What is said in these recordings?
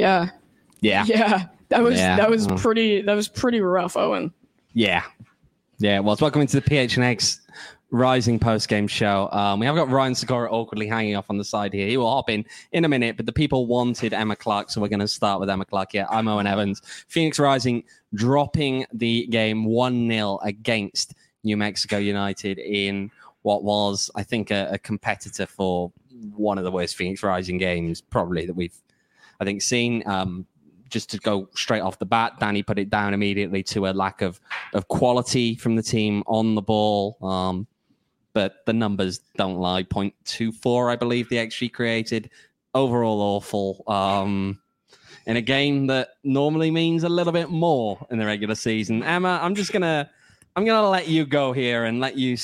Yeah. That was pretty rough, Owen. Yeah. Well, welcome into the PHNX Rising post-game show. We have got Ryan Sikora awkwardly hanging off on the side here. He will hop in a minute, but the people wanted Emma Clark, so we're going to start with Emma Clark. Yeah, I'm Owen Evans. Phoenix Rising dropping the game 1-0 against New Mexico United in what was, I think, a competitor for one of the worst Phoenix Rising games probably that we've, I think, seen. Just to go straight off the bat, Danny put it down immediately to a lack of quality from the team on the ball. But the numbers don't lie. 0.24, I believe, the XG created. Overall awful. In a game that normally means a little bit more in the regular season. Emma, I'm gonna let you go here and let you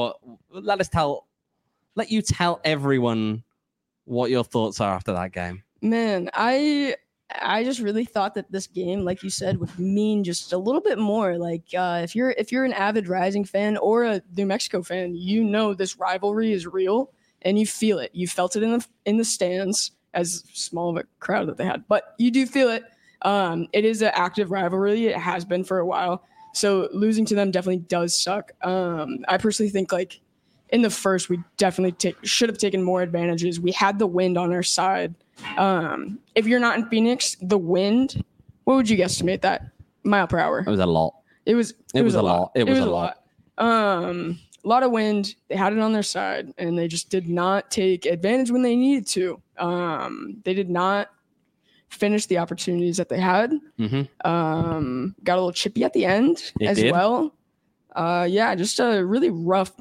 tell everyone what your thoughts are after that game. Man, I just really thought that this game, like you said, would mean just a little bit more. Like if you're an avid Rising fan or a New Mexico fan, you know this rivalry is real and you feel it. You felt it in the stands, as small of a crowd that they had, but you do feel it. It is an active rivalry. It has been for a while. So losing to them definitely does suck. I personally think like in the first, we definitely should have taken more advantages. We had the wind on our side. If you're not in Phoenix, the wind, what would you guesstimate that mile per hour? It was a lot. It was a lot. It was a lot. A lot of wind. They had it on their side, and they just did not take advantage when they needed to. They did not finish the opportunities that they had. Mm-hmm. Got a little chippy at the end well. Just a really rough.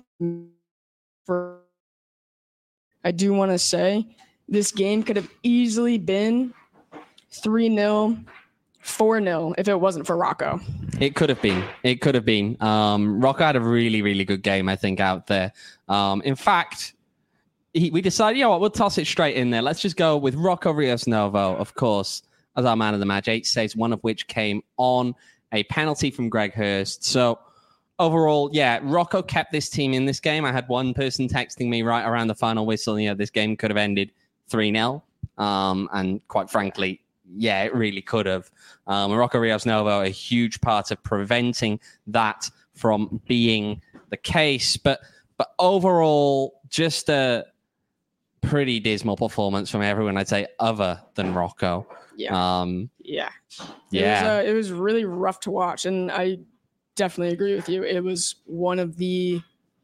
I do want to say this game could have easily been 3-0, 4-0 if it wasn't for Rocco. It could have been. Rocco had a really, really good game, I think, out there. In fact, we decided, you know what, we'll toss it straight in there. Let's just go with Rocco Rios Novo, of course, as our man of the match. 8 saves, one of which came on a penalty from Greg Hurst. So overall, yeah, Rocco kept this team in this game. I had one person texting me right around the final whistle, this game could have ended 3-0. And quite frankly, yeah, it really could have. Rocco Rios Novo, a huge part of preventing that from being the case. But overall, just a pretty dismal performance from everyone, I'd say, other than Rocco. Yeah. It was really rough to watch. And I definitely agree with you. It was one of the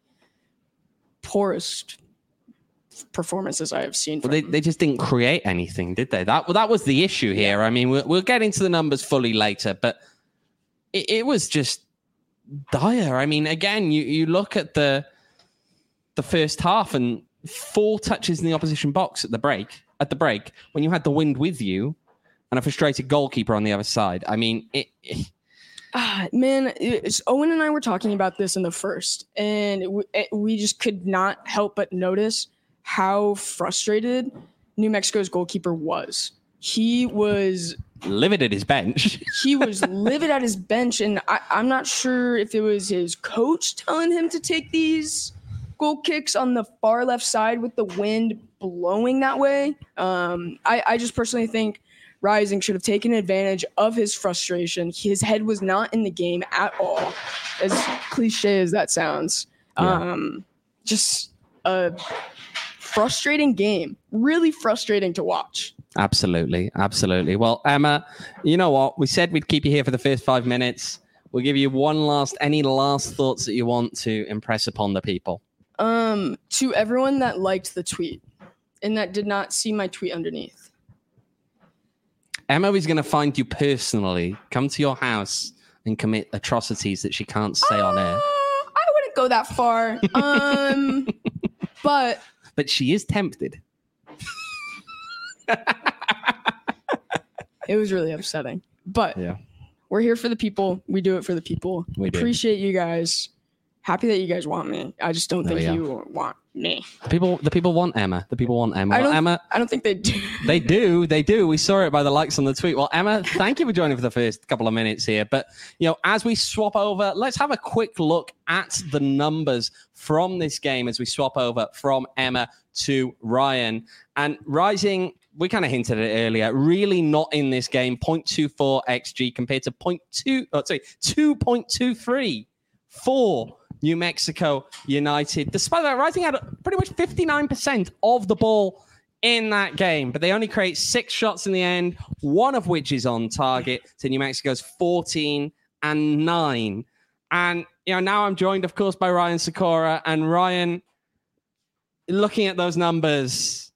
poorest performances I have seen. Well, they just didn't create anything, did they? That was the issue here. I mean, we'll get into the numbers fully later, but it was just dire. I mean, again, you look at the first half and 4 touches in the opposition box at the break when you had the wind with you and a frustrated goalkeeper on the other side. I mean, Owen and I were talking about this in the first, and we just could not help but notice how frustrated New Mexico's goalkeeper was. He was livid at his bench. He was livid at his bench, and I'm not sure if it was his coach telling him to take these goal kicks on the far left side with the wind blowing that way. I just personally think Rising should have taken advantage of his frustration. His head was not in the game at all, as cliche as that sounds. Yeah. Just a frustrating game. Really frustrating to watch. Absolutely. Well, Emma, you know what? We said we'd keep you here for the first 5 minutes. We'll give you any last thoughts that you want to impress upon the people. To everyone that liked the tweet and that did not see my tweet underneath. Emma is going to find you personally, come to your house and commit atrocities that she can't say on air. I wouldn't go that far. But she is tempted. It was really upsetting. But we're here for the people. We do it for the people. We appreciate you guys. Happy that you guys want me. I just don't think you want me. The people want Emma. The people want Emma. I don't think they do. They do. We saw it by the likes on the tweet. Well, Emma, thank you for joining for the first couple of minutes here. But, as we swap over, let's have a quick look at the numbers from this game as we swap over from Emma to Ryan. And Rising we kind of hinted at it earlier, really not in this game. 0.24 XG compared to 2.23 for New Mexico United. Despite that, Rising had pretty much 59% of the ball in that game, but they only create 6 shots in the end, one of which is on target to New Mexico's 14-9. And, now I'm joined, of course, by Ryan Sikora. And Ryan, looking at those numbers,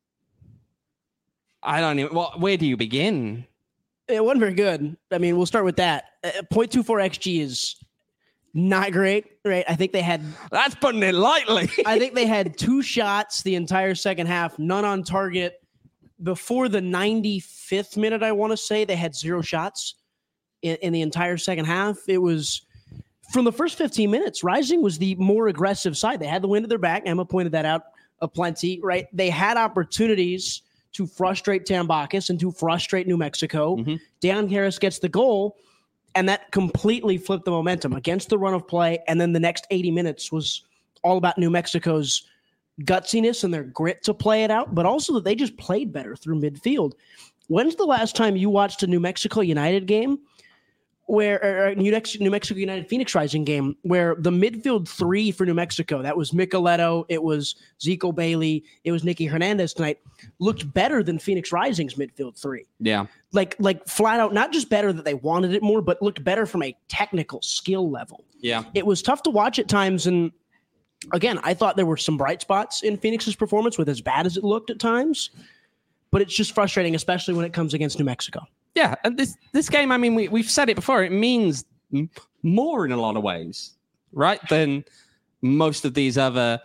I don't even, where do you begin? It wasn't very good. I mean, we'll start with that. 0.24 XG is not great, right? I think they had... That's putting it lightly. I think they had 2 shots the entire second half, none on target. Before the 95th minute, I want to say, they had 0 shots in the entire second half. It was... From the first 15 minutes, Rising was the more aggressive side. They had the wind at their back. Emma pointed that out aplenty, right? They had opportunities to frustrate Tambakis and to frustrate New Mexico. Mm-hmm. Dan Harris gets the goal, and that completely flipped the momentum against the run of play. And then the next 80 minutes was all about New Mexico's gutsiness and their grit to play it out, but also that they just played better through midfield. When's the last time you watched a New Mexico United game where New Mexico United Phoenix Rising game where the midfield 3 for New Mexico, that was Micheletto, it was Zico Bailey, it was Nicky Hernandez tonight, looked better than Phoenix Rising's midfield 3. Yeah. Like flat out, not just better that they wanted it more, but looked better from a technical skill level. Yeah. It was tough to watch at times. And again, I thought there were some bright spots in Phoenix's performance with as bad as it looked at times, but it's just frustrating, especially when it comes against New Mexico. Yeah, and this game, I mean, we've said it before, it means more in a lot of ways, right, than most of these other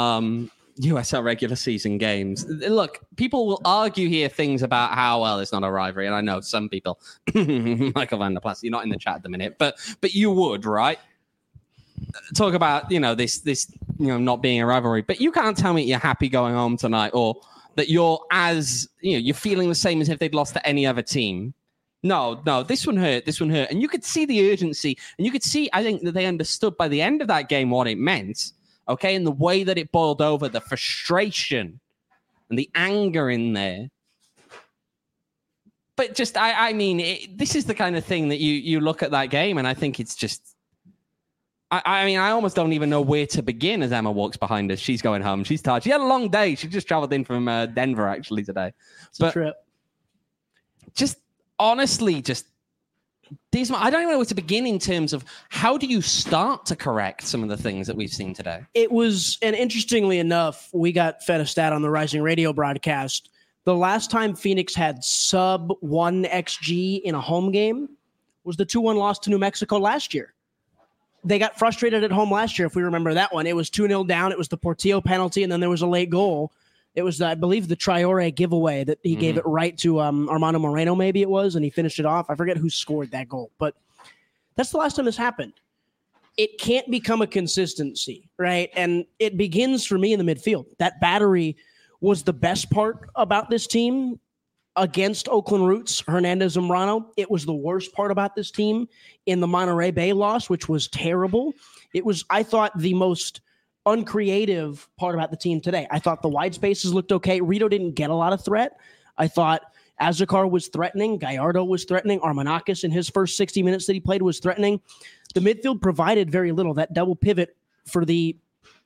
USL regular season games. Look, people will argue here things about how, well, it's not a rivalry, and I know some people, Michael Van der Plas, you're not in the chat at the minute, but you would, right? Talk about, this not being a rivalry, but you can't tell me you're happy going home tonight or that you're you're feeling the same as if they'd lost to any other team. No, this one hurt. And you could see the urgency, and you could see, I think, that they understood by the end of that game what it meant, okay, and the way that it boiled over, the frustration and the anger in there. But just, this is the kind of thing that you look at that game, and I think it's just, I almost don't even know where to begin as Emma walks behind us. She's going home. She's tired. She had a long day. She just traveled in from Denver, actually, today. It's a trip. Just honestly, these. I don't even know where to begin in terms of how do you start to correct some of the things that we've seen today. It was, and interestingly enough, we got fed a stat on the Rising Radio broadcast. The last time Phoenix had sub 1 XG in a home game was the 2-1 loss to New Mexico last year. They got frustrated at home last year, if we remember that one. It was 2-0 down. It was the Portillo penalty, and then there was a late goal. It was, I believe, the Traore giveaway that he gave it right to Armando Moreno, maybe it was, and he finished it off. I forget who scored that goal, but that's the last time this happened. It can't become a consistency, right? And it begins for me in the midfield. That battery was the best part about this team against Oakland Roots, Hernandez and Morano. It was the worst part about this team in the Monterey Bay loss, which was terrible. It was, I thought, the most uncreative part about the team today. I thought the wide spaces looked okay. Rito didn't get a lot of threat. I thought Azakar was threatening. Gallardo was threatening. Armanakis in his first 60 minutes that he played was threatening. The midfield provided very little. That double pivot for the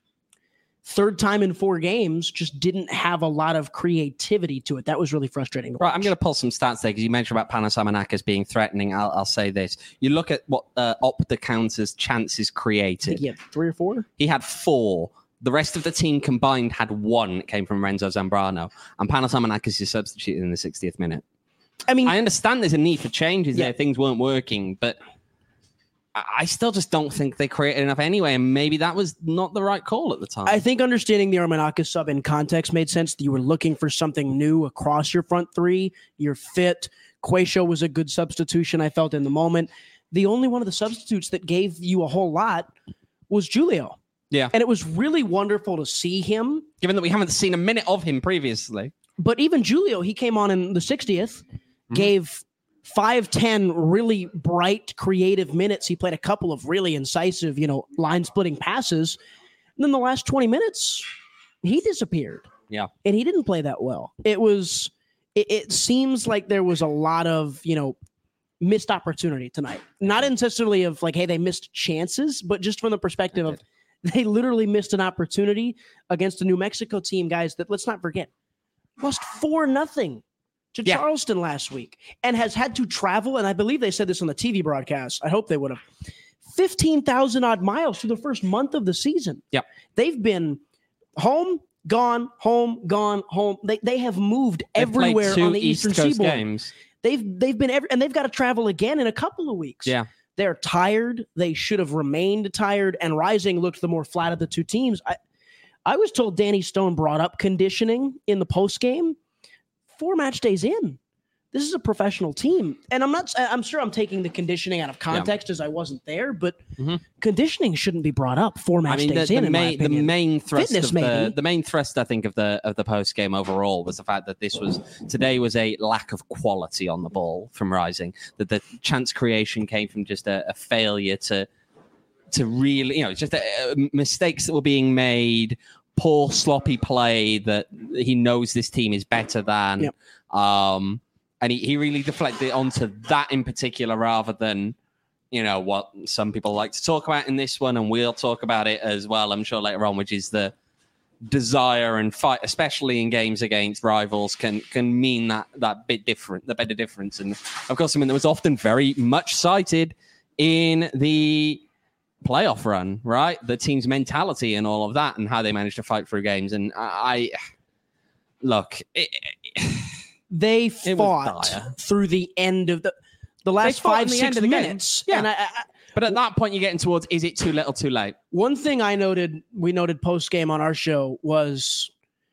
third time in 4 games just didn't have a lot of creativity to it. That was really frustrating. Right, I'm going to pull some stats there because you mentioned about Panos Armanakis being threatening. I'll say this. You look at what Opta counts as chances created. I think he had 3 or 4? He had 4. The rest of the team combined had 1. It came from Renzo Zambrano. And Panos Armanakis is substituted in the 60th minute. I mean, I understand there's a need for changes there. Things weren't working, but I still just don't think they created enough anyway, and maybe that was not the right call at the time. I think understanding the Armanakis sub in context made sense. You were looking for something new across your front 3. You're fit. Quaisho was a good substitution, I felt, in the moment. The only one of the substitutes that gave you a whole lot was Julio. Yeah. And it was really wonderful to see him. Given that we haven't seen a minute of him previously. But even Julio, he came on in the 60th, gave 5-10 really bright, creative minutes. He played a couple of really incisive, line-splitting passes. And then the last 20 minutes, he disappeared. Yeah. And he didn't play that well. It was it seems like there was a lot of, missed opportunity tonight. Not necessarily of like, hey, they missed chances, but just from the perspective of they literally missed an opportunity against a New Mexico team, guys, that let's not forget, lost 4-0 to Charleston last week and has had to travel. And I believe they said this on the TV broadcast. I hope they would have 15,000 odd miles through the first month of the season. Yep. They've been home, gone, home, gone, home. They have moved everywhere on the Eastern Seaboard. Games. They've been and they've got to travel again in a couple of weeks. Yeah. They're tired. They should have remained tired, and Rising looked the more flat of the two teams. I was told Danny Stone brought up conditioning in the post game 4 match days in. This is a professional team. And I'm sure I'm taking the conditioning out of context as I wasn't there, but conditioning shouldn't be brought up 4 match days in my opinion. The main thrust Fitness, the main thrust, I think, of the post game overall was the fact that today was a lack of quality on the ball from Rising. That the chance creation came from just a failure to really, just mistakes that were being made, poor sloppy play that he knows this team is better than. Yep. And he really deflected onto that in particular rather than, what some people like to talk about in this one. And we'll talk about it as well, I'm sure, later on, which is the desire and fight, especially in games against rivals, can mean that bit different, the better difference. And of course, something that was often very much cited in the playoff run, right? The team's mentality and all of that and how they managed to fight through games. And they fought through the end of the last 5-6 minutes. Yeah. And but at that point, you're getting towards, is it too little, too late? One thing we noted post-game on our show was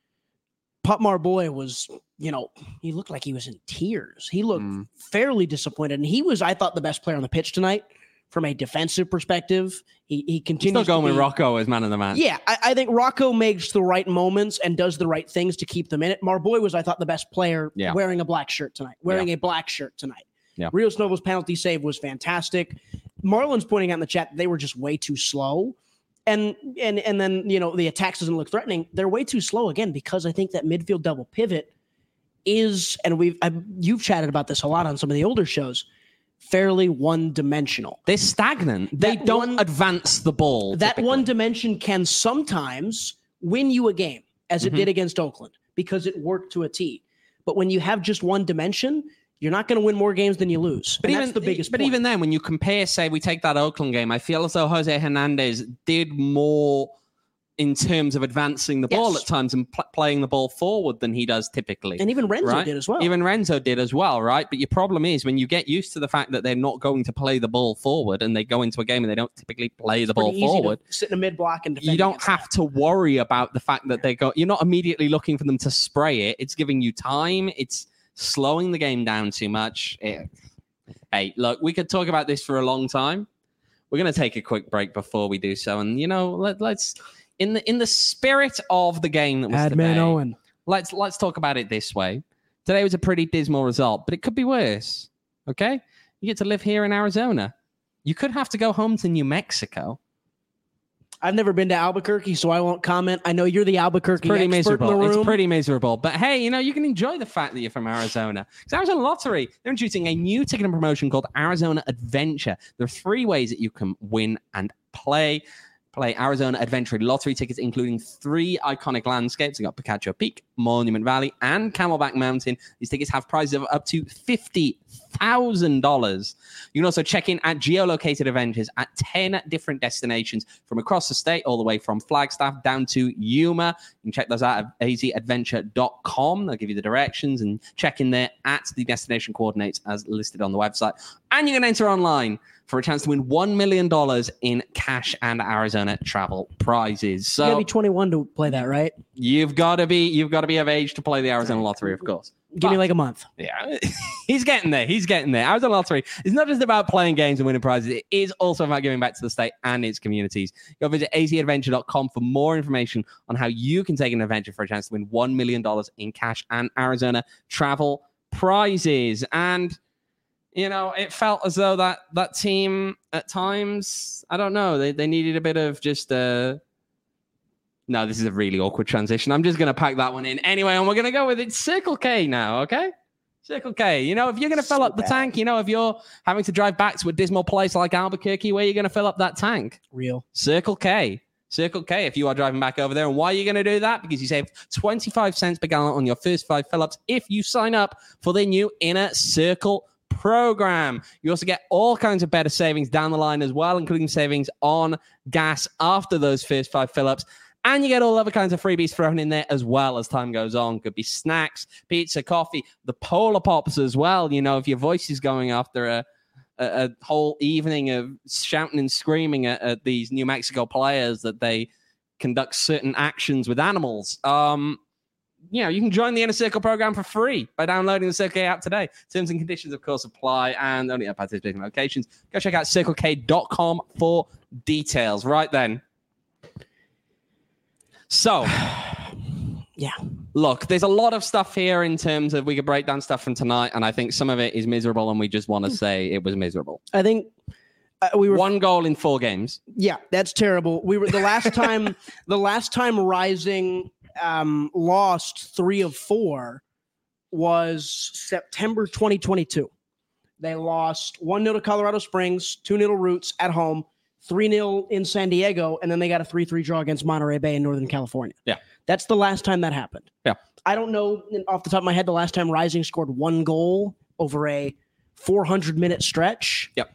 Pop Marboy was, he looked like he was in tears. He looked fairly disappointed. And he was, I thought, the best player on the pitch tonight from a defensive perspective. He continues still going with Rocco as man of the match. Yeah, I think Rocco makes the right moments and does the right things to keep them in it. Marboy was, I thought, the best player wearing a black shirt tonight. Yeah. Rios Novo's penalty save was fantastic. Marlon's pointing out in the chat that they were just way too slow. And then, the attacks doesn't look threatening. They're way too slow again because I think that midfield double pivot is, and you've chatted about this a lot on some of the older shows, fairly one-dimensional. They're stagnant. They don't advance the ball. That one dimension can sometimes win you a game, as it did against Oakland, because it worked to a T. But when you have just one dimension, you're not going to win more games than you lose. But that's the biggest point. Even then, when you compare, say, we take that Oakland game, I feel as though Jose Hernandez did more in terms of advancing the ball at times and playing the ball forward than he does typically. And even Renzo did as well. Even Renzo did as well, right? But your problem is when you get used to the fact that they're not going to play the ball forward and they go into a game and they don't typically play the ball forward. Sit in a mid-block and defend. You don't have to worry about the fact that you're not immediately looking for them to spray it. It's giving you time. It's slowing the game down too much. Hey, look, we could talk about this for a long time. We're going to take a quick break before we do so. And, let's... In the spirit of the game that was today, Owen. Let's talk about it this way. Today was a pretty dismal result, but it could be worse. Okay? You get to live here in Arizona. You could have to go home to New Mexico. I've never been to Albuquerque, so I won't comment. I know you're the Albuquerque expert miserable. in the room. It's pretty miserable. But hey, you can enjoy the fact that you're from Arizona. Because Arizona Lottery, they're introducing a new ticketing promotion called Arizona Adventure. There are 3 ways that you can win and play Arizona Adventure Lottery tickets, including 3 iconic landscapes. You got Picacho Peak, Monument Valley, and Camelback Mountain. These tickets have prizes of up to $50,000. You can also check in at geolocated adventures at 10 different destinations from across the state, all the way from Flagstaff down to Yuma. You can check those out at azadventure.com. They'll give you the directions and check in there at the destination coordinates as listed on the website. And you can enter online for a chance to win $1 million in cash and Arizona travel prizes. So you gotta be 21 to play that, right? You've got to be of age to play the Arizona Lottery, of course. Give me like a month. Yeah, he's getting there. Arizona Lottery is not just about playing games and winning prizes. It is also about giving back to the state and its communities. Go visit azadventure.com for more information on how you can take an adventure for a chance to win $1 million in cash and Arizona travel prizes. And it felt as though that team at times, I don't know, they needed a bit of just No, this is a really awkward transition. I'm just going to pack that one in. Anyway, and we're going to go with it. Circle K now, okay? Circle K. You know, if you're going to fill up the tank, you know, if you're having to drive back to a dismal place like Albuquerque, where are you going to fill up that tank? Real. Circle K. Circle K if you are driving back over there. And why are you going to do that? Because you save 25 cents per gallon on your first 5 fill-ups if you sign up for the new Inner Circle program. You also get all kinds of better savings down the line as well, including savings on gas after those first 5 fill-ups. And you get all other kinds of freebies thrown in there as well as time goes on. Could be snacks, pizza, coffee, the Polar Pops as well. You know, if your voice is going after a whole evening of shouting and screaming at these New Mexico players that they conduct certain actions with animals. You know, you can join the Inner Circle program for free by downloading the Circle K app today. Terms and conditions, of course, apply and only at participating locations. Go check out CircleK.com for details. Right then. So, yeah. Look, there's a lot of stuff here in terms of we could break down stuff from tonight, and I think some of it is miserable, and we just want to say it was miserable. I think we were 1 goal in 4 games. Yeah, that's terrible. We were the last time Rising lost 3 of 4 was September 2022. They lost 1-0 to Colorado Springs, 2-0 to Roots at home, 3-0 in San Diego, and then they got a 3-3 draw against Monterey Bay in Northern California. Yeah. That's the last time that happened. Yeah. I don't know off the top of my head the last time Rising scored 1 goal over a 400-minute stretch. Yep.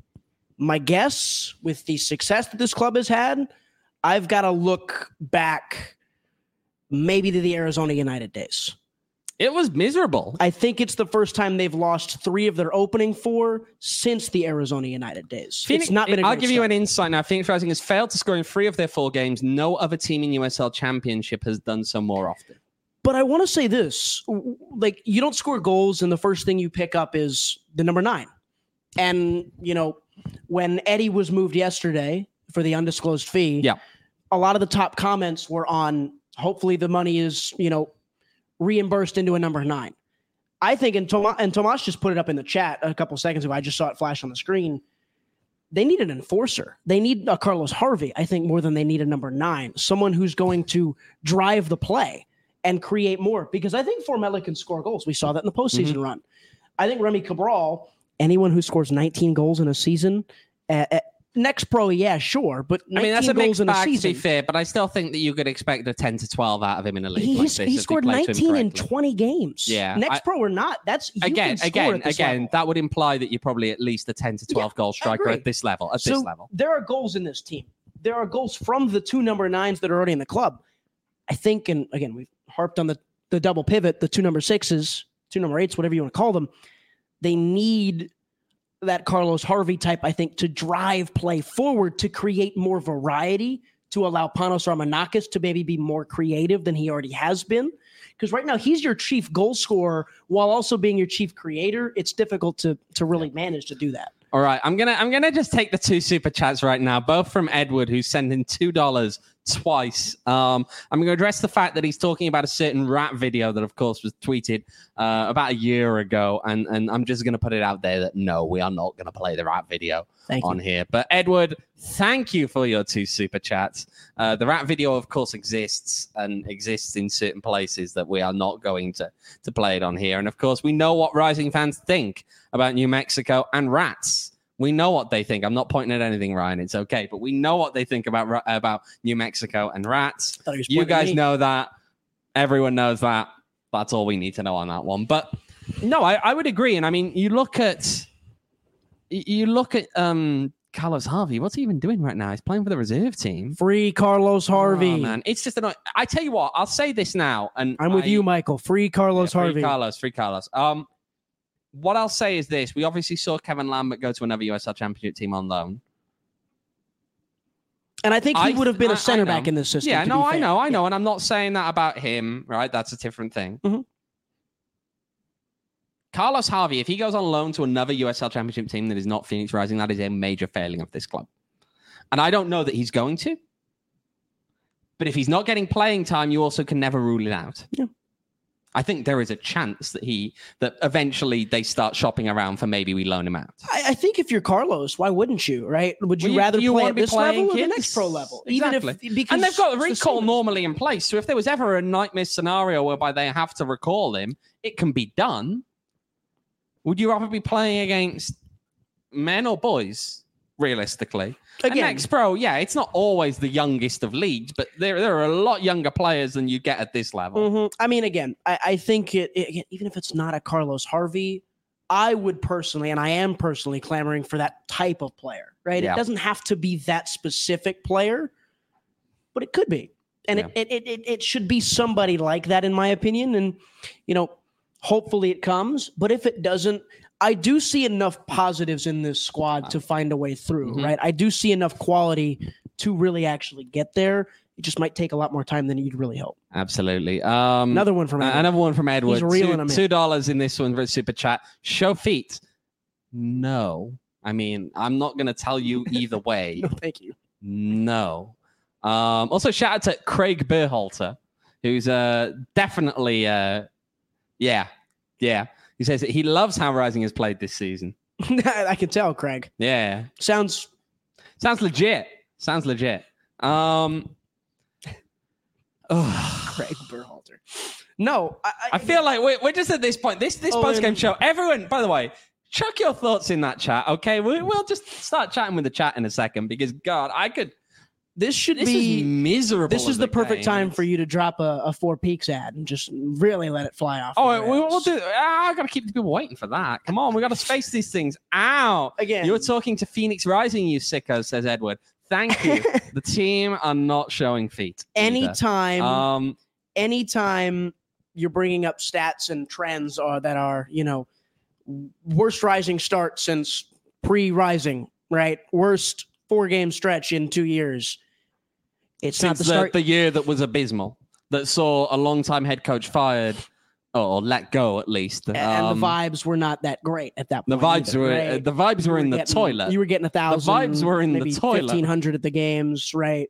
My guess, with the success that this club has had, I've got to look back maybe to the Arizona United days. It was miserable. I think it's the first time they've lost 3 of their opening 4 since the Arizona United days. Phoenix, it's not been a I'll great give you start. an insight now. Phoenix Rising has failed to score in 3 of their 4 games. No other team in USL Championship has done so more often. But I want to say this, like, you don't score goals and the first thing you pick up is the number 9. And, you know, when Eddie was moved yesterday for the undisclosed fee, a lot of the top comments were on, hopefully the money is, you know, reimbursed into a number 9. I think, and Tomas just put it up in the chat a couple seconds ago, I just saw it flash on the screen, they need an enforcer. They need a Carlos Harvey, I think, more than they need a number 9, someone who's going to drive the play and create more, because I think Formella can score goals. We saw that in the postseason run. I think Remy Cabral, anyone who scores 19 goals in a season, next pro, yeah, sure, but 19 that's a goals mixed in a bag, season. to be fair, but I still think that you could expect a 10 to 12 out of him in a league like this. He scored 19 in 20 games. Yeah. Next pro or not, that's again, that would imply that you're probably at least a 10 to 12 goal striker at this level. There are goals in this team. There are goals from the 2 number 9s that are already in the club. I think, and again, we've harped on the double pivot, the 2 number 6s, 2 number 8s, whatever you want to call them. They need that Carlos Harvey type, I think, to drive play forward, to create more variety, to allow Panos Armanakis to maybe be more creative than he already has been. Because right now he's your chief goal scorer while also being your chief creator. It's difficult to really manage to do that. All right, I'm gonna just take the 2 super chats right now, both from Edward, who's sending $2 twice. I'm going to address the fact that he's talking about a certain rap video that, of course, was tweeted about a year ago, and I'm just going to put it out there that no, we are not going to play the rap video on here. But Edward, thank you for your 2 super chats. The rap video, of course, exists in certain places that we are not going to play it on here, and of course, we know what Rising fans think about New Mexico and rats. We know what they think. I'm not pointing at anything, Ryan. It's okay. But we know what they think about New Mexico and rats. You guys know that. Everyone knows that. That's all we need to know on that one. But no, I would agree. And I mean, you look at Carlos Harvey. What's he even doing right now? He's playing for the reserve team. Free Carlos Harvey. Oh, man. It's just annoying. I tell you what, I'll say this now. And I'm with you, Michael. Free Carlos Harvey. Free Carlos. What I'll say is this. We obviously saw Kevin Lambert go to another USL Championship team on loan. And I think he would have been a center back in this system. Yeah, no, I know. And I'm not saying that about him, right? That's a different thing. Mm-hmm. Carlos Harvey, if he goes on loan to another USL Championship team that is not Phoenix Rising, that is a major failing of this club. And I don't know that he's going to. But if he's not getting playing time, you also can never rule it out. Yeah. I think there is a chance that eventually they start shopping around for maybe we loan him out. I think if you're Carlos, why wouldn't you, right? Would you Well, rather you play wanna at be this playing level or the kids? next pro level? Exactly. Because And they've got a it's the recall same. normally in place. So if there was ever a nightmare scenario whereby they have to recall him, it can be done. Would you rather be playing against men or boys, realistically? And Again, next pro, yeah, it's not always the youngest of leagues, but there are a lot younger players than you get at this level. I mean, again, I think even if it's not a Carlos Harvey, I would personally, and I am personally clamoring for that type of player, right? Yeah. It doesn't have to be that specific player, but it could be. And Yeah. it should be somebody like that, in my opinion. And, hopefully it comes. But if it doesn't, I do see enough positives in this squad to find a way through, Mhm. right? I do see enough quality to really actually get there. It just might take a lot more time than you'd really hope. Absolutely. Another one from Edward. Another one from Edward. He's reeling them in. $2 in this one for a super chat. Show feet. No. I mean, I'm not going to tell you either way. No, thank you. No. Also, shout out to Craig Berhalter, who's definitely, yeah. He says that he loves how Rising has played this season. I can tell, Craig. Yeah. Sounds Sounds legit. Craig Berhalter. No, I feel like we're just at this point. This post-game show. Everyone, by the way, chuck your thoughts in that chat, okay? We'll just start chatting with the chat in a second because, God, This This is miserable. This is as the a perfect game. time for you to drop a Four Peaks ad and just really let it fly off. Oh, the we'll rails. do. I got to keep the people waiting for that. Come on, we got to space these things out. Again. You're talking to Phoenix Rising, you sickos, says Edward. Thank you. The team are not showing feet. either. Anytime you're bringing up stats and trends that are, worst Rising start since pre-Rising, right? Worst 4-game stretch in 2 years. It's not Since the start. the year that was abysmal, that saw a long-time head coach fired or let go at least. and the vibes were not that great at that The point. vibes either, were right? the vibes were in the toilet. You were getting 1,000. vibes were in the maybe toilet. 1,500 at the games, right?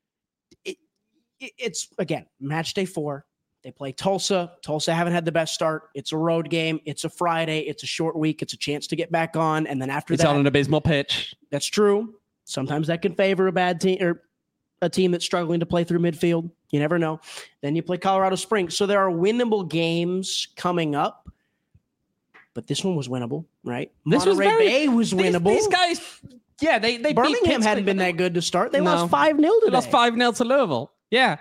It's again match day 4. They play Tulsa. Tulsa haven't had the best start. It's a road game. It's a Friday. It's a short week. It's a chance to get back on. And then after It's that, on an abysmal pitch. that's true. Sometimes that can favor a bad team or a team that's struggling to play through midfield. You never know. Then you play Colorado Springs. So there are winnable games coming up. But this one was winnable, right? This was Monterey Bay was winnable. These guys, yeah, they beat Birmingham Pittsburgh, hadn't been but that good to start. They No. lost 5-0 today. They lost 5-0 to Louisville. Yeah,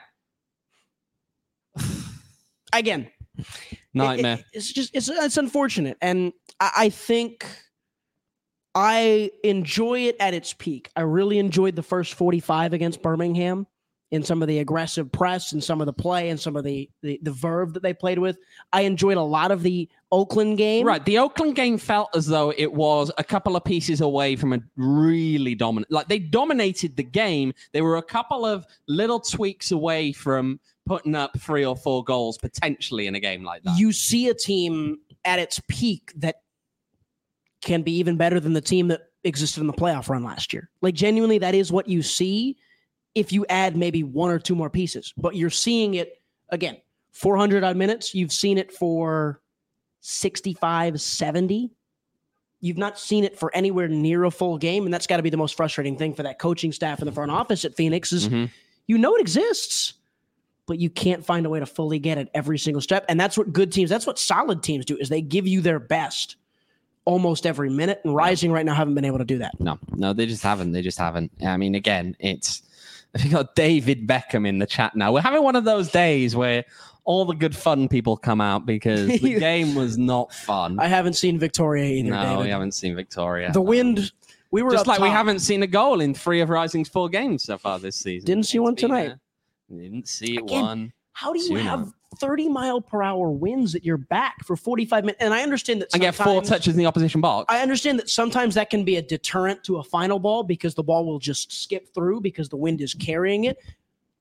Again, nightmare. it's unfortunate. And I think I enjoy it at its peak. I really enjoyed the first 45 against Birmingham in some of the aggressive press and some of the play and some of the verve that they played with. I enjoyed a lot of the Oakland game. Right, the Oakland game felt as though it was a couple of pieces away from a really dominant. Like they dominated the game. They were a couple of little tweaks away from putting up 3 or 4 goals potentially in a game like that. You see a team at its peak that can be even better than the team that existed in the playoff run last year. Like genuinely, that is what you see if you add maybe 1 or 2 more pieces. But you're seeing it, again, 400 odd minutes. You've seen it for 65, 70. You've not seen it for anywhere near a full game. And that's got to be the most frustrating thing for that coaching staff in the front office at Phoenix is you know it exists, but you can't find a way to fully get it every single step. And that's what good teams, that's what solid teams do, is they give you their best almost every minute. And Rising right now haven't been able to do that. No, they just haven't. I mean, again, we got David Beckham in the chat now. We're having one of those days where all the good fun people come out because the game was not fun. I haven't seen Victoria either. No, David. we haven't seen Victoria. The wind, we were just up like we top. haven't seen a goal in 3 of Rising's 4 games so far this season. Didn't see one It's been, tonight. Didn't see Again, one. How do you 2-0. have 30-mile-per-hour winds at your back for 45 minutes? And I understand that And get 4 sometimes- touches in the opposition box. I understand that sometimes that can be a deterrent to a final ball because the ball will just skip through because the wind is carrying it.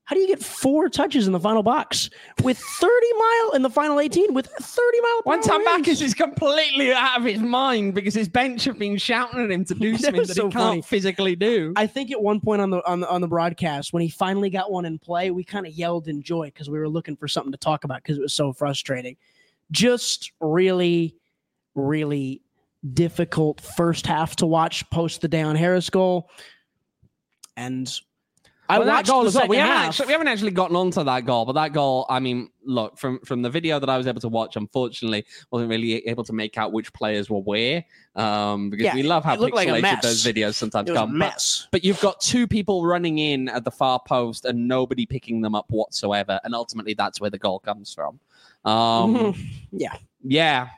How do you get 4 touches in the final box with 30 mile in the final 18 with 30 mile? One time Backus is completely out of his mind because his bench have been shouting at him to do something that so he can't funny. physically do. I think at one point on the broadcast, when he finally got one in play, we kind of yelled in joy because we were looking for something to talk about because it was so frustrating. Just really, really difficult first half to watch post the Dayon Harris goal. And I watched goal the as well. second We half. haven't actually gotten onto that goal, but that goal, I mean, look, from the video that I was able to watch, unfortunately, wasn't really able to make out which players were where, because we love how it looked like a pixelated mess. those videos sometimes It was a come. mess. But you've got 2 people running in at the far post and nobody picking them up whatsoever, and ultimately that's where the goal comes from. Yeah. Yeah.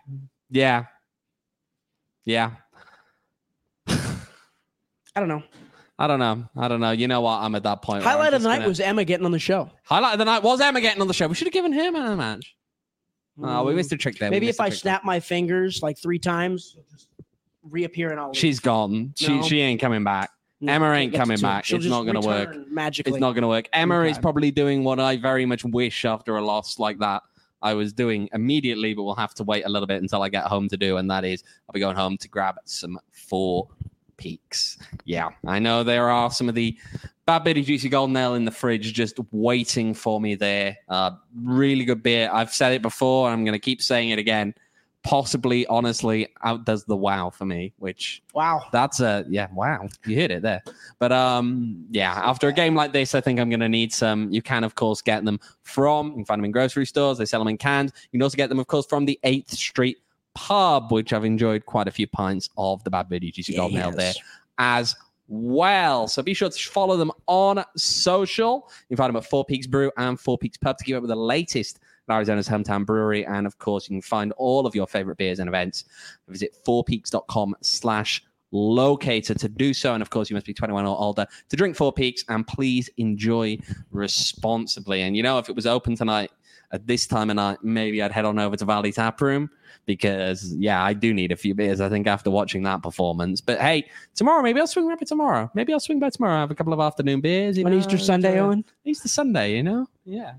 I don't know. I don't know. You know what? I'm at that point. Highlight of the night was Emma getting on the show. Highlight of the night was Emma getting on the show. We should have given her man of the match. Oh, we missed a trick there. Maybe if I snap my fingers like 3 times, it'll just reappear in all. She's gone. No. She ain't coming back. No, Emma ain't that's coming too- back. she'll It's just not going to work. return magically. It's not going to work. Emma Okay. is probably doing what I very much wish after a loss like that I was doing immediately, but we'll have to wait a little bit until I get home to do, and that is I'll be going home to grab some 4 Peaks. Yeah, I know there are some of the Bad Bitty Juicy Golden Ale in the fridge just waiting for me there. Really good beer. I've said it before, and I'm going to keep saying it again. Possibly, honestly, outdoes the WoW for me, which Wow. that's wow. You hit it there. But after a game like this, I think I'm going to need some. You can, of course, get them you can find them in grocery stores. They sell them in cans. You can also get them, of course, from the 8th Street Pub, which I've enjoyed quite a few pints of the Bad Bitty Juicy Golden Ale there as well. So be sure to follow them on social. You can find them at 4 Peaks Brew and 4 Peaks Pub to keep up with the latest Arizona's hometown brewery. And of course, you can find all of your favorite beers and events. Visit 4peaks.com/locator to do so. And of course, you must be 21 or older to drink 4 Peaks, and please enjoy responsibly. And if it was open tonight at this time of night, maybe I'd head on over to Valley Tap Room because, I do need a few beers, I think, after watching that performance. But hey, tomorrow, maybe I'll swing by tomorrow. Maybe I'll swing by tomorrow. I have a couple of afternoon beers. On Easter Sunday, Owen? Easter Sunday, Yeah.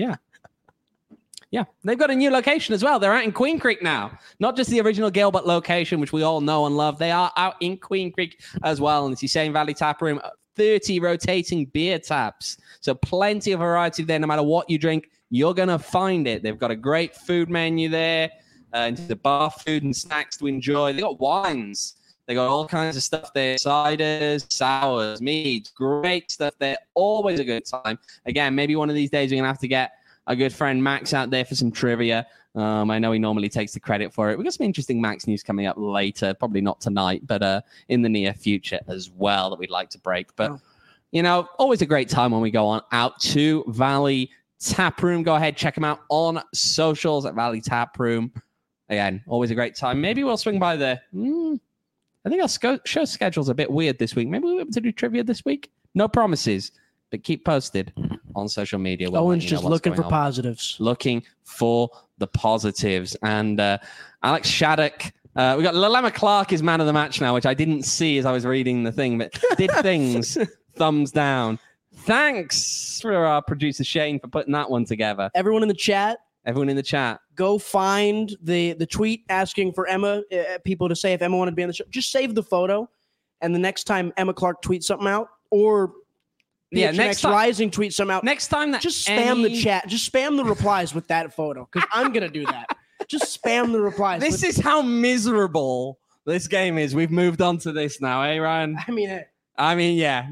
Yeah, they've got a new location as well. They're out in Queen Creek now. Not just the original Gilbert location, which we all know and love. They are out in Queen Creek as well. And as you say, in Valley Tap Room, 30 rotating beer taps. So plenty of variety there. No matter what you drink, you're going to find it. They've got a great food menu there. Into the bar food and snacks to enjoy. They got wines. They got all kinds of stuff there. Ciders, sours, meads. Great stuff there. Always a good time. Again, maybe one of these days we're going to have to get our good friend Max out there for some trivia. I know he normally takes the credit for it. We've got some interesting Max news coming up later. Probably not tonight, but in the near future as well that we'd like to break. But, always a great time when we go on out to Valley Tap Room. Go ahead, check them out on socials at Valley Tap Room. Again, always a great time. Maybe we'll swing by there. I think our show schedule's a bit weird this week. Maybe we'll be able to do trivia this week. No promises, but keep posted on social media. Owen's just looking for positives. Looking for the positives. And Alex Shattuck. We got Lalema Clark is man of the match now, which I didn't see as I was reading the thing, but did things. Thumbs down. Thanks for our producer Shane for putting that one together. Everyone in the chat, go find the tweet asking for Emma, people to say if Emma wanted to be on the show. Just save the photo, and the next time Emma Clark tweets something out, or next time Rising tweets something out, next time that just spam the chat, just spam the replies with that photo, because I'm gonna do that. Just spam the replies. This is how miserable this game is. We've moved on to this now, eh, Ryan? I mean, yeah.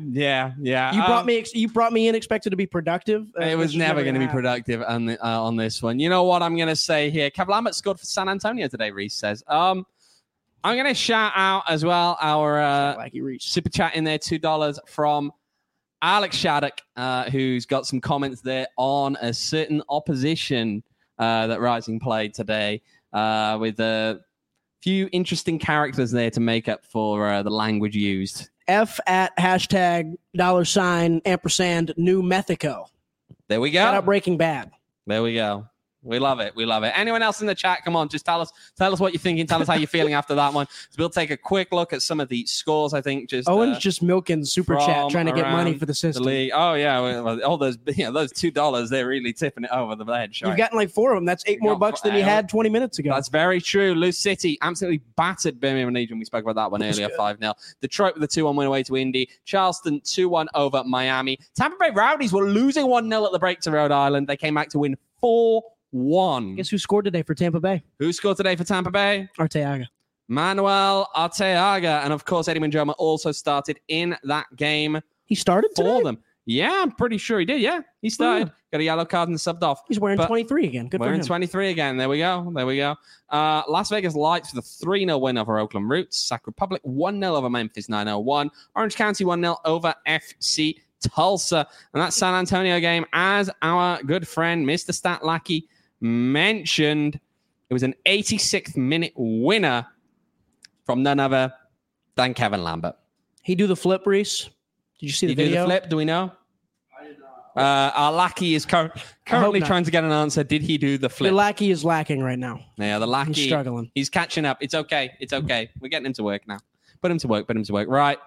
You brought me in expected to be productive. It was never going to be productive on this one. You know what I'm going to say here? Kev Lambert scored for San Antonio today, Reese says. I'm going to shout out as well our super chat in there, $2 from Alex Shattuck, who's got some comments there on a certain opposition that Rising played today with a few interesting characters there to make up for the language used. F at hashtag $$ ampersand New Mexico. There we go. Shout out Breaking Bad. There we go. We love it. We love it. Anyone else in the chat? Come on, just tell us what you're thinking. Tell us how you're feeling after that one. So we'll take a quick look at some of the scores. I think Owen's just milking super chat, trying to get money for the system. Oh yeah, well, all those those $2, they're really tipping it over the ledge. You've gotten like 4 of them. That's 8 more bucks than you had 20 minutes ago. That's very true. Loose City absolutely battered Birmingham Legion. We spoke about that one earlier, 5-0. Detroit with a 2-1 win away to Indy. Charleston 2-1 over Miami. Tampa Bay Rowdies were losing 1-0 at the break to Rhode Island. They came back to win 4-1. Guess who scored today for Tampa Bay? Who scored today for Tampa Bay? Arteaga. Manuel Arteaga. And of course, Eddie Manjoma also started in that game. He started for them. Yeah, I'm pretty sure he did. Yeah, he started. Got a yellow card and subbed off. He's wearing 23 again. Good for him. Wearing 23 again. There we go. Las Vegas Lights with a 3-0 win over Oakland Roots. Sac Republic 1-0 over Memphis 901. Orange County 1-0 over FC Tulsa. And that San Antonio game, as our good friend Mr. Stat Lackey mentioned, it was an 86th minute winner from none other than Kevin Lambert. He do the flip, Reese? Did you see the video? Do the flip? Do we know? I did not. Our Lackey is currently trying to get an answer. Did he do the flip? Your Lackey is lacking right now. Yeah, the Lackey. He's struggling. He's catching up. It's okay. We're getting him to work now. Put him to work. Right.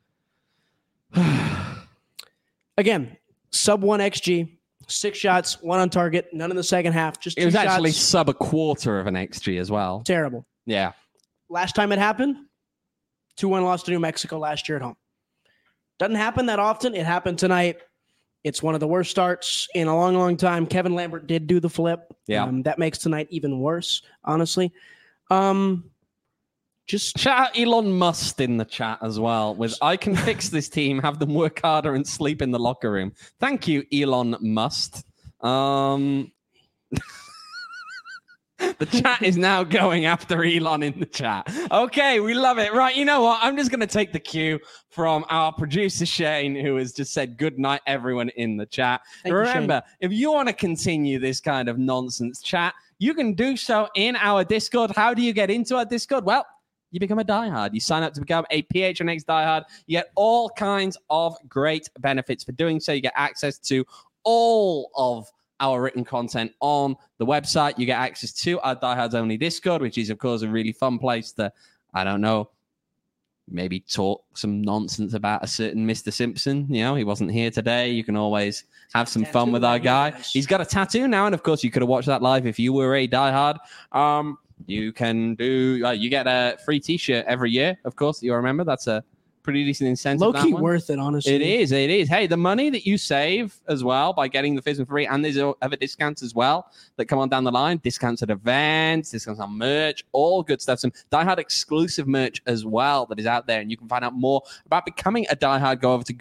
Again, sub 1 XG. 6 shots, 1 on target, none in the second half. Just 2 it was shots. Actually sub a quarter of an XG as well. Terrible. Yeah. Last time it happened, 2-1 loss to New Mexico last year at home. Doesn't happen that often. It happened tonight. It's one of the worst starts in a long, long time. Kevin Lambert did do the flip. Yeah. That makes tonight even worse, honestly. Just shout out Elon Musk in the chat as well with I can fix this team, have them work harder and sleep in the locker room. Thank you, Elon Musk. The chat is now going after Elon in the chat. Okay, we love it. Right, you know what? I'm just going to take the cue from our producer, Shane, who has just said good night, everyone in the chat. Remember, if you want to continue this kind of nonsense chat, you can do so in our Discord. How do you get into our Discord? Well, you become a diehard. You sign up to become a PHNX diehard. You get all kinds of great benefits for doing so. You get access to all of our written content on the website. You get access to our diehards only Discord, which is, of course, a really fun place to, I don't know, maybe talk some nonsense about a certain Mr. Simpson. You know, he wasn't here today. You can always have some fun with our guy. He's got a tattoo now, and of course, you could have watched that live if you were a diehard. You can do. You get a free T-shirt every year. Of course, you remember that's a pretty decent incentive. Low key worth it, honestly. It is. Hey, the money that you save as well by getting the FISM free, and there's other discounts as well that come on down the line. Discounts at events, discounts on merch, all good stuff. Some diehard exclusive merch as well that is out there, and you can find out more about becoming a diehard. Go over to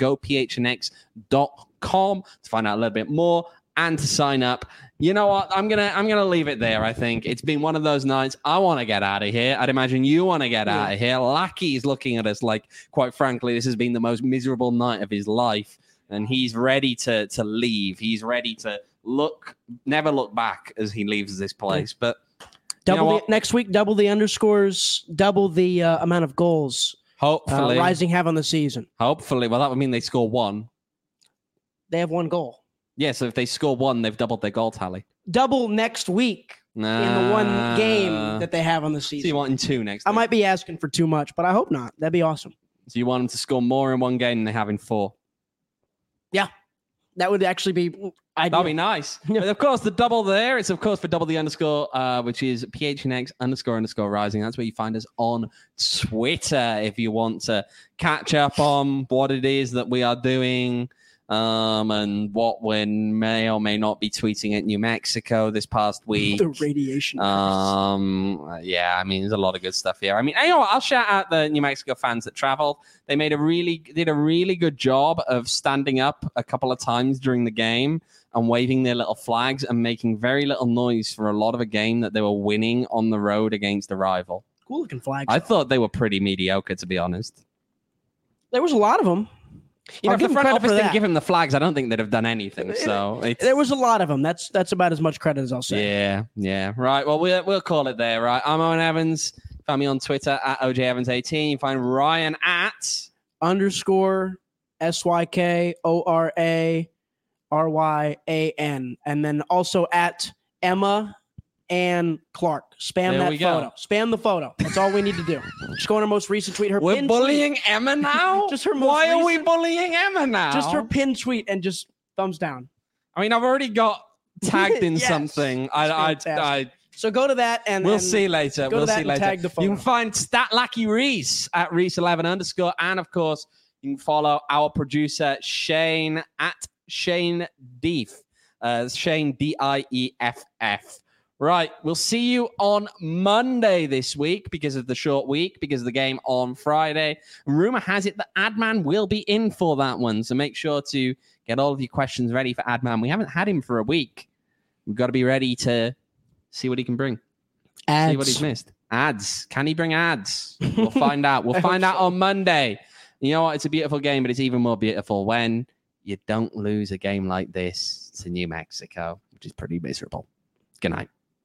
gophnx.com to find out a little bit more and to sign up. You know what? I'm gonna leave it there. I think it's been one of those nights. I want to get out of here. I'd imagine you want to get out of here. Lackey is looking at us like, quite frankly, this has been the most miserable night of his life, and he's ready to leave. He's ready to never look back as he leaves this place. But next week, double the underscores, double the amount of goals. Hopefully, Rising have on the season. Hopefully, well, that would mean they score 1. They have 1 goal. Yeah, so if they score 1, they've doubled their goal tally. Double next week in the 1 game that they have on the season. So you want in 2 next week? I might be asking for too much, but I hope not. That'd be awesome. So you want them to score more in 1 game than they have in 4? Yeah, that would actually be ideal. That'd be nice. But of course, the double there, it's of course for double the underscore, which is PHNX__rising. That's where you find us on Twitter if you want to catch up on what it is that we are doing. And what we may or may not be tweeting at New Mexico this past week. The radiation. Yeah, I mean, there's a lot of good stuff here. I mean, you know what? I'll shout out the New Mexico fans that traveled. They did a really good job of standing up a couple of times during the game and waving their little flags and making very little noise for a lot of a game that they were winning on the road against a rival. Cool looking flags. I thought they were pretty mediocre, to be honest. There was a lot of them. You know, if the front office didn't give him the flags, I don't think they'd have done anything. So there was a lot of them. That's about as much credit as I'll say. Yeah. Right. Well, we'll call it there. Right. I'm Owen Evans. Find me on Twitter at OJEvans18. Find Ryan at _SYKORARYAN, and then also at Emma and Clark. Spam There that we go. photo. Spam the photo. That's all we need to do. Just go on her most recent tweet. Her We're pin bullying tweet. Emma now? Just her most Why are we recent- bullying Emma now? Just her pin tweet and just thumbs down. I mean, I've already got tagged in Yes. something. That's fantastic. So go to that and We'll and see later. go to We'll that see and later. tag the You can photo. find StatLackey Reese at Reese11_. And of course, you can follow our producer Shane at Shane Deef. Shane Dieff. Right. We'll see you on Monday this week because of the short week, because of the game on Friday. Rumor has it that Adman will be in for that one. So make sure to get all of your questions ready for Adman. We haven't had him for a week. We've got to be ready to see what he can bring. See what he's missed. Ads. Can he bring ads? We'll find out. We'll find out on Monday. You know what? It's a beautiful game, but it's even more beautiful when you don't lose a game like this to New Mexico, which is pretty miserable. Good night.